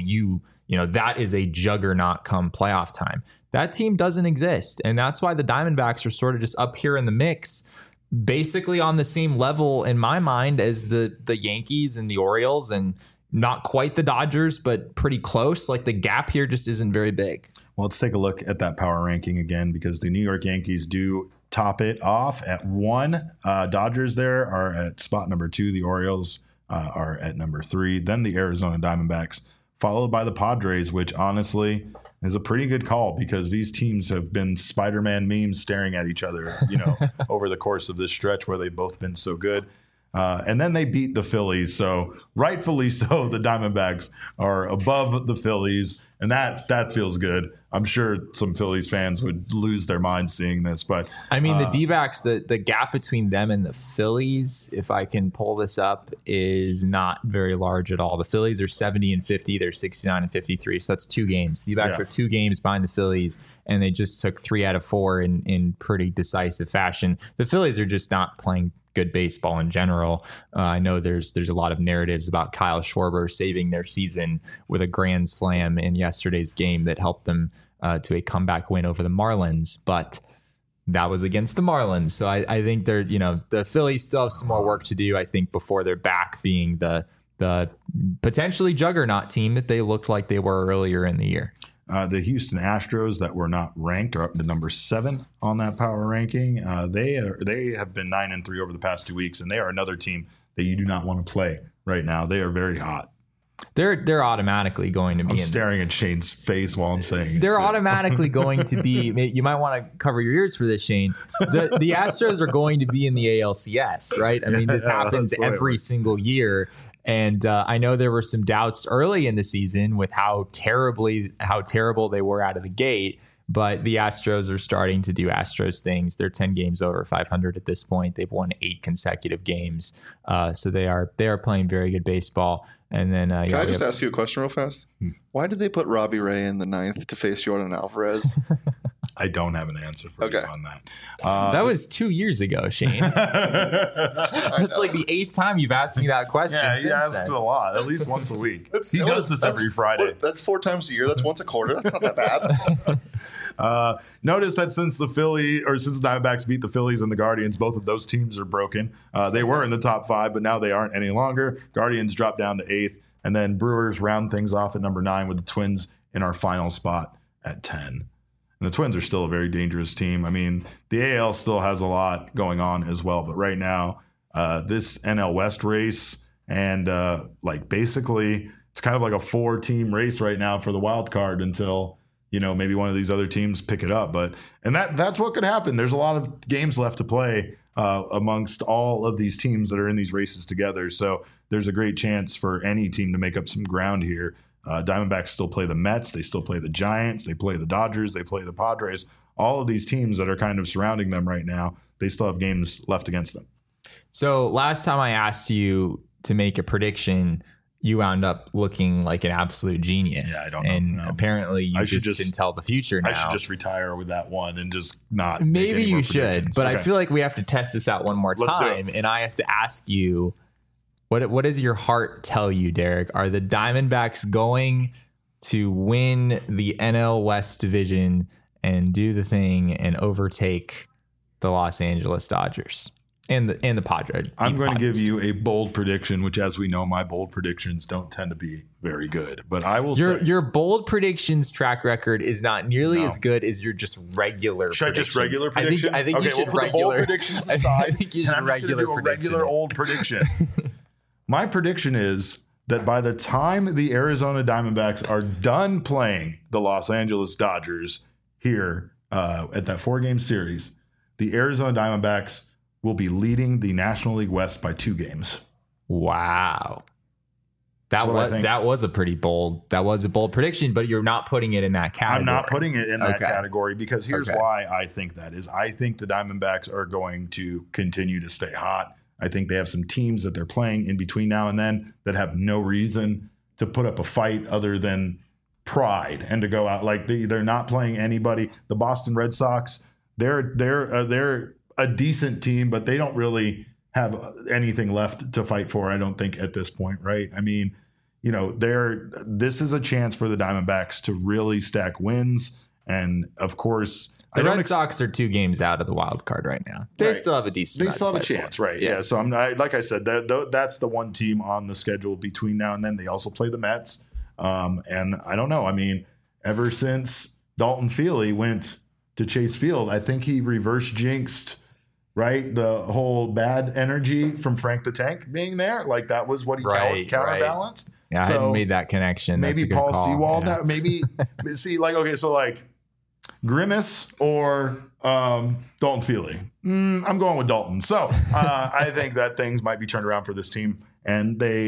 that is a juggernaut come playoff time. That team doesn't exist. And that's why the Diamondbacks are sort of just up here in the mix, basically on the same level in my mind as the Yankees and the Orioles, and not quite the Dodgers, but pretty close. Like the gap here just isn't very big. Well, let's take a look at that power ranking again, because the New York Yankees do top it off at 1. Dodgers there are at spot number 2. The Orioles are at number 3. Then the Arizona Diamondbacks, followed by the Padres, which honestly is a pretty good call, because these teams have been Spider-Man memes staring at each other, over the course of this stretch where they've both been so good. And then they beat the Phillies. So rightfully so, the Diamondbacks are above the Phillies, and that feels good. I'm sure some Phillies fans would lose their minds seeing this, but I mean, the D-backs, the gap between them and the Phillies, if I can pull this up, is not very large at all. The Phillies are 70-50, they're 69-53, so that's 2 games. The D-backs are 2 games behind the Phillies, and they just took 3 out of 4 in pretty decisive fashion. The Phillies are just not playing good baseball in general. I know there's a lot of narratives about Kyle Schwarber saving their season with a grand slam in yesterday's game that helped them to a comeback win over the Marlins, but that was against the Marlins. So I think they're, the Phillies still have some more work to do, I think, before they're back being the potentially juggernaut team that they looked like they were earlier in the year. The Houston Astros, that were not ranked, are up to number 7 on that power ranking. They have been 9-3 over the past 2 weeks, and they are another team that you do not want to play right now. They are very hot. They're automatically going to be. I'm staring at Shane's face while I'm saying they're automatically going to be. You might want to cover your ears for this, Shane. The Astros are going to be in the ALCS, right? I mean, this happens every single year. And I know there were some doubts early in the season with how terrible they were out of the gate. But the Astros are starting to do Astros things. They're 10 games over 500 at this point. They've won 8 consecutive games. So they are playing very good baseball. And then can I just ask you a question real fast? Why did they put Robbie Ray in the 9th to face Jordan Alvarez? I don't have an answer for you on that. That was 2 years ago, Shane. That's like the 8th time you've asked me that question. Yeah, he asks a lot, at least once a week. He does this every Friday. That's 4 times a year. That's once a quarter. That's not that bad. Notice that since the Diamondbacks beat the Phillies and the Guardians, both of those teams are broken. They were in the top 5, but now they aren't any longer. Guardians drop down to 8th, and then Brewers round things off at number 9 with the Twins in our final spot at 10. And the Twins are still a very dangerous team. I mean, the AL still has a lot going on as well, but right now, this NL West race and basically it's kind of like a 4-team race right now for the wild card until maybe one of these other teams pick it up. And that's what could happen. There's a lot of games left to play amongst all of these teams that are in these races together. So there's a great chance for any team to make up some ground here. Diamondbacks still play the Mets. They still play the Giants. They play the Dodgers. They play the Padres. All of these teams that are kind of surrounding them right now, they still have games left against them. So last time I asked you to make a prediction, you wound up looking like an absolute genius. Yeah, I don't know. And apparently you just can tell the future now. I should just retire with that one and just not. Maybe you should, but okay. I feel like we have to test this out one more time. And I have to ask you, what does your heart tell you, Derek? Are the Diamondbacks going to win the NL West division and do the thing and overtake the Los Angeles Dodgers and the Padres? I'm going to give you a bold prediction, which, as we know, my bold predictions don't tend to be very good. But I will say your bold predictions track record is not nearly as good as your just regular. Should I just regular prediction? I think you should put the bold predictions aside. I think you should I'm just going to do a regular old prediction. my prediction is that by the time the Arizona Diamondbacks are done playing the Los Angeles Dodgers here at that 4-game series, the Arizona Diamondbacks will be leading the National League West by 2 games. Wow. That was a bold prediction, but you're not putting it in that category. I'm not putting it in that category because here's why I think that is. I think the Diamondbacks are going to continue to stay hot. I think they have some teams that they're playing in between now and then that have no reason to put up a fight other than pride and to go out like they're not playing anybody. The Boston Red Sox, they're a decent team, but they don't really have anything left to fight for, I don't think, at this point, right? I mean, this is a chance for the Diamondbacks to really stack wins. And of course, the Red Sox are 2 games out of the wild card right now. They still have a decent. They still have a chance, right? Yeah. So like I said, that's the one team on the schedule between now and then. They also play the Mets, and I don't know. I mean, ever since Dalton Feely went to Chase Field, I think he reverse jinxed, right, the whole bad energy from Frank the Tank being there. Like that was what he counterbalanced. Yeah, I hadn't made that connection. Maybe Paul Sewald. Yeah. Maybe see, like, okay, so like Grimace or Dalton Feely. I'm going with Dalton. So I think that things might be turned around for this team. And they,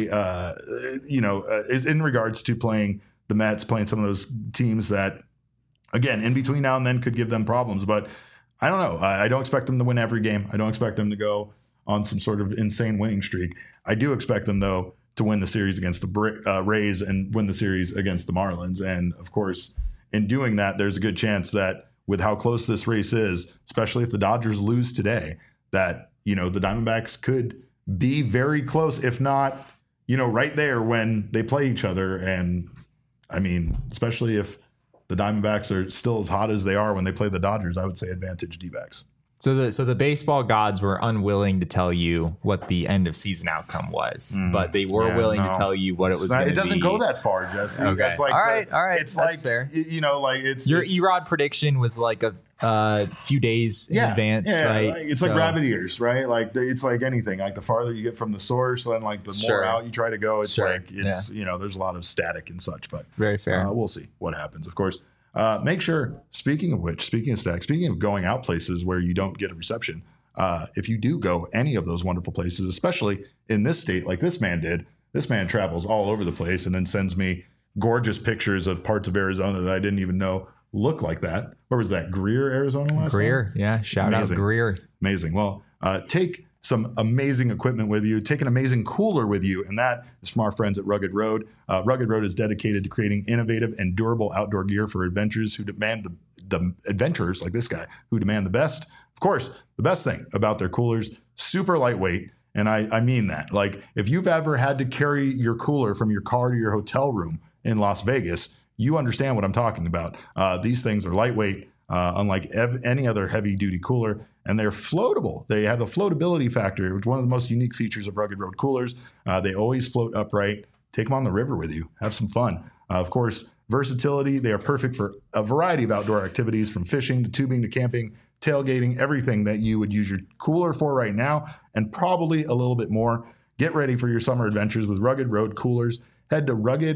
is in regards to playing the Mets, playing some of those teams that, again, in between now and then could give them problems. But I don't know. I don't expect them to win every game. I don't expect them to go on some sort of insane winning streak. I do expect them, though, to win the series against the Rays and win the series against the Marlins. And, of course, in doing that, there's a good chance that with how close this race is, especially if the Dodgers lose today, that, the Diamondbacks could be very close, if not, right there when they play each other. And, I mean, especially if the Diamondbacks are still as hot as they are when they play the Dodgers, I would say advantage D-backs. So the baseball gods were unwilling to tell you what the end of season outcome was, but they were willing to tell you what it was going to be. It doesn't go that far, Jesse. Okay. That's like all right. It's that's like fair. It's your Erod prediction was like a few days in advance, right? It's like rabbit ears, right? Like it's like anything. Like the farther you get from the source, and like the more out you try to go, it's there's a lot of static and such. But very fair. We'll see what happens, of course. Make sure, speaking of stack, speaking of going out places where you don't get a reception, if you do go any of those wonderful places, especially in this state like this man did, this man travels all over the place and then sends me gorgeous pictures of parts of Arizona that I didn't even know look like that. Where was that? Greer, Arizona last Greer, time? Yeah. Shout out Greer. Amazing. Well, take some amazing equipment with you, take an amazing cooler with you, and that is from our friends at Rugged Road. Rugged Road is dedicated to creating innovative and durable outdoor gear for adventurers who demand the adventurers like this guy who demand the best. Of course, the best thing about their coolers, super lightweight, and I mean that. Like if you've ever had to carry your cooler from your car to your hotel room in Las Vegas, you understand what I'm talking about. These things are lightweight, unlike any other heavy-duty cooler, and they're floatable. They have a floatability factor, which is one of the most unique features of Rugged Road coolers. They always float upright. Take them on the river with you. Have some fun. Of course, versatility. They are perfect for a variety of outdoor activities, from fishing to tubing to camping, tailgating, everything that you would use your cooler for right now, and probably a little bit more. Get ready for your summer adventures with Rugged Road coolers. Head to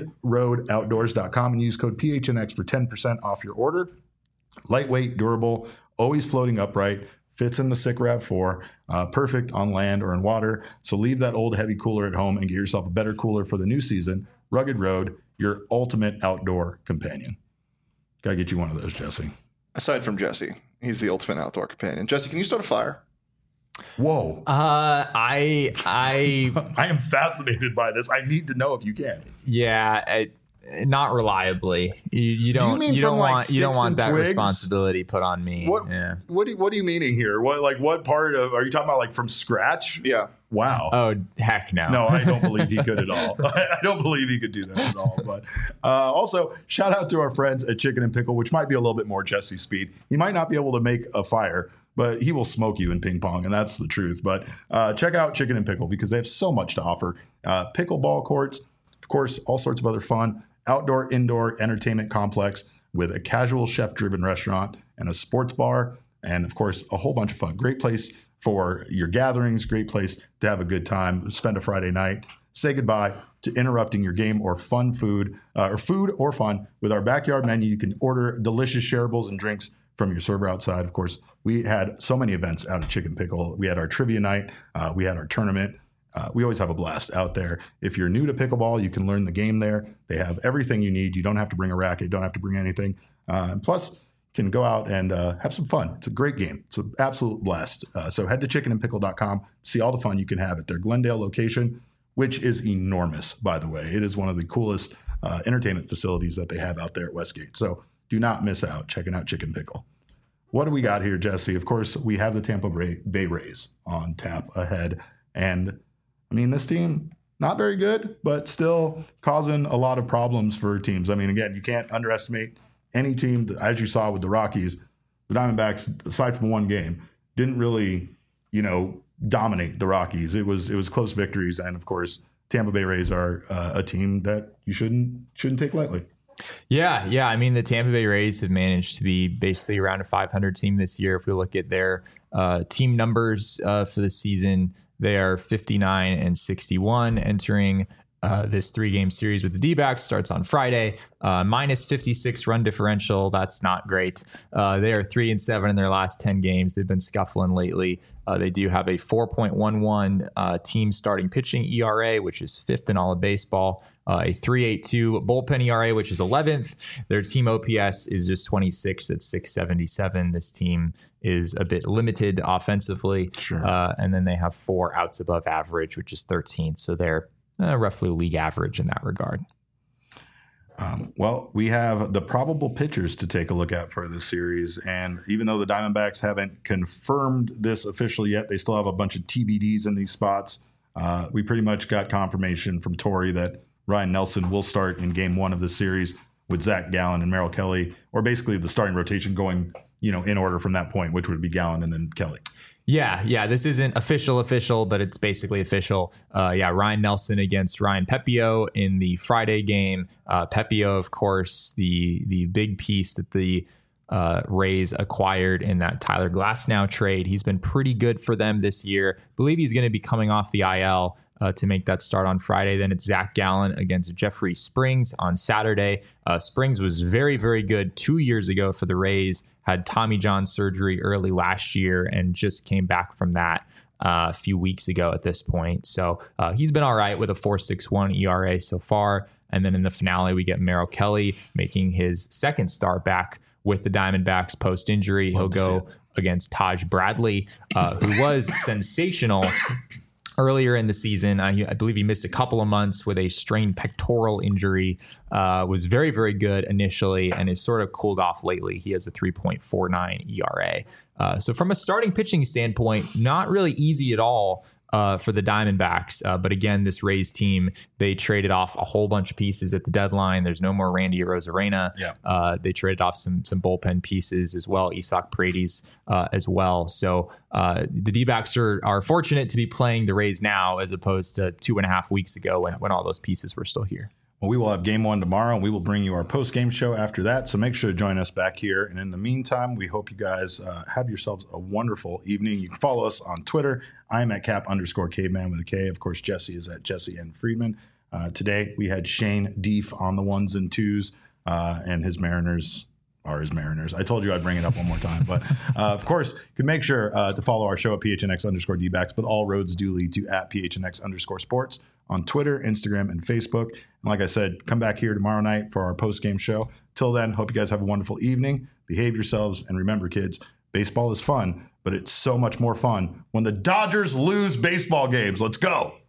ruggedroadoutdoors.com and use code PHNX for 10% off your order. Lightweight, durable, always floating upright, fits in the SICK RAV4, perfect on land or in water. So leave that old heavy cooler at home and get yourself a better cooler for the new season. Rugged Road, your ultimate outdoor companion. Gotta get you one of those, Jesse. Aside from Jesse, he's the ultimate outdoor companion. Jesse, can you start a fire? Whoa. I am fascinated by this. I need to know if you can. Yeah, not reliably. You don't want that twigs? Responsibility put on me. What are you meaning here? What part of are you talking about, like from scratch? Yeah. Wow. Oh, heck no. No, I don't believe he could at all. I don't believe he could do that at all. But also, shout out to our friends at Chicken and Pickle, which might be a little bit more Jesse speed. He might not be able to make a fire, but he will smoke you in ping pong, and that's the truth. But check out Chicken and Pickle because they have so much to offer. Pickleball courts, of course, all sorts of other fun. Outdoor, indoor entertainment complex with a casual chef-driven restaurant and a sports bar, and of course, a whole bunch of fun. Great place for your gatherings, great place to have a good time, spend a Friday night. say goodbye to interrupting your game or food or fun with our backyard menu. You can order delicious shareables and drinks from your server outside. Of course, we had so many events out at Chicken Pickle. We had our trivia night. We had our tournament. We always have a blast out there. If you're new to pickleball, you can learn the game there. They have everything you need. You don't have to bring a racket. You don't have to bring anything. Plus, you can go out and have some fun. It's a great game. It's an absolute blast. So head to chickenandpickle.com, see all the fun you can have at their Glendale location, which is enormous, by the way. It is one of the coolest entertainment facilities that they have out there at Westgate. So do not miss out checking out Chicken Pickle. What do we got here, Jesse? Of course, we have the Tampa Bay Rays on tap ahead. And, I mean, this team, not very good, but still causing a lot of problems for teams. I mean, again, you can't underestimate any team, as you saw with the Rockies. The Diamondbacks, aside from one game, didn't really, dominate the Rockies. It was close victories. And, of course, Tampa Bay Rays are a team that you shouldn't take lightly. Yeah. I mean, the Tampa Bay Rays have managed to be basically around a 500 team this year. If we look at their team numbers for the season, they are 59-61 entering this 3-game series with the D-backs. Starts on Friday. Minus 56 run differential. That's not great. They are 3-7 in their last 10 games. They've been scuffling lately. They do have a 4.11 team starting pitching ERA, which is 5th in all of baseball. A 3.82 bullpen ERA, which is 11th. Their team OPS is just 26th at 677. This team is a bit limited offensively. Sure. And then they have 4 outs above average, which is 13th. So they're roughly league average in that regard. Well, we have the probable pitchers to take a look at for this series. And even though the Diamondbacks haven't confirmed this officially yet, they still have a bunch of TBDs in these spots. We pretty much got confirmation from Tori that Ryan Nelson will start in game 1 of the series with Zach Gallen and Merrill Kelly, or basically the starting rotation going, in order from that point, which would be Gallen and then Kelly. Yeah. This isn't official, but it's basically official. Ryan Nelson against Ryan Pepio in the Friday game. Pepio, of course, the big piece that the Rays acquired in that Tyler Glasnow trade. He's been pretty good for them this year. I believe he's going to be coming off the IL to make that start on Friday. Then it's Zach Gallen against Jeffrey Springs on Saturday. Springs was very, very good 2 years ago for the Rays, had Tommy John surgery early last year and just came back from that a few weeks ago at this point. So he's been all right with a 4.61 ERA so far. And then in the finale, we get Merrill Kelly making his second start back with the Diamondbacks post-injury. He'll go against Taj Bradley, who was sensational earlier in the season. I believe he missed a couple of months with a strained pectoral injury, was very, very good initially and has sort of cooled off lately. He has a 3.49 ERA. So from a starting pitching standpoint, not really easy at all for the Diamondbacks. But again, this Rays team, they traded off a whole bunch of pieces at the deadline. There's no more Randy Arozarena. Yeah. They traded off some bullpen pieces as well, Isak Paredes as well. So the D-backs are fortunate to be playing the Rays now as opposed to 2.5 weeks ago when all those pieces were still here. Well, we will have game 1 tomorrow, and we will bring you our post-game show after that. So make sure to join us back here. And in the meantime, we hope you guys have yourselves a wonderful evening. You can follow us on Twitter. I'm at Cap_caveman with a K. Of course, Jesse is at Jesse N. Friedman. Today, we had Shane Deef on the 1s and 2s, and his Mariners are his Mariners. I told you I'd bring it up one more time. But, of course, you can make sure to follow our show at PHNX_D-backs, but all roads do lead to at PHNX_sports on Twitter, Instagram, and Facebook. And like I said, come back here tomorrow night for our post-game show. Till then, hope you guys have a wonderful evening. Behave yourselves. And remember, kids, baseball is fun, but it's so much more fun when the Dodgers lose baseball games. Let's go.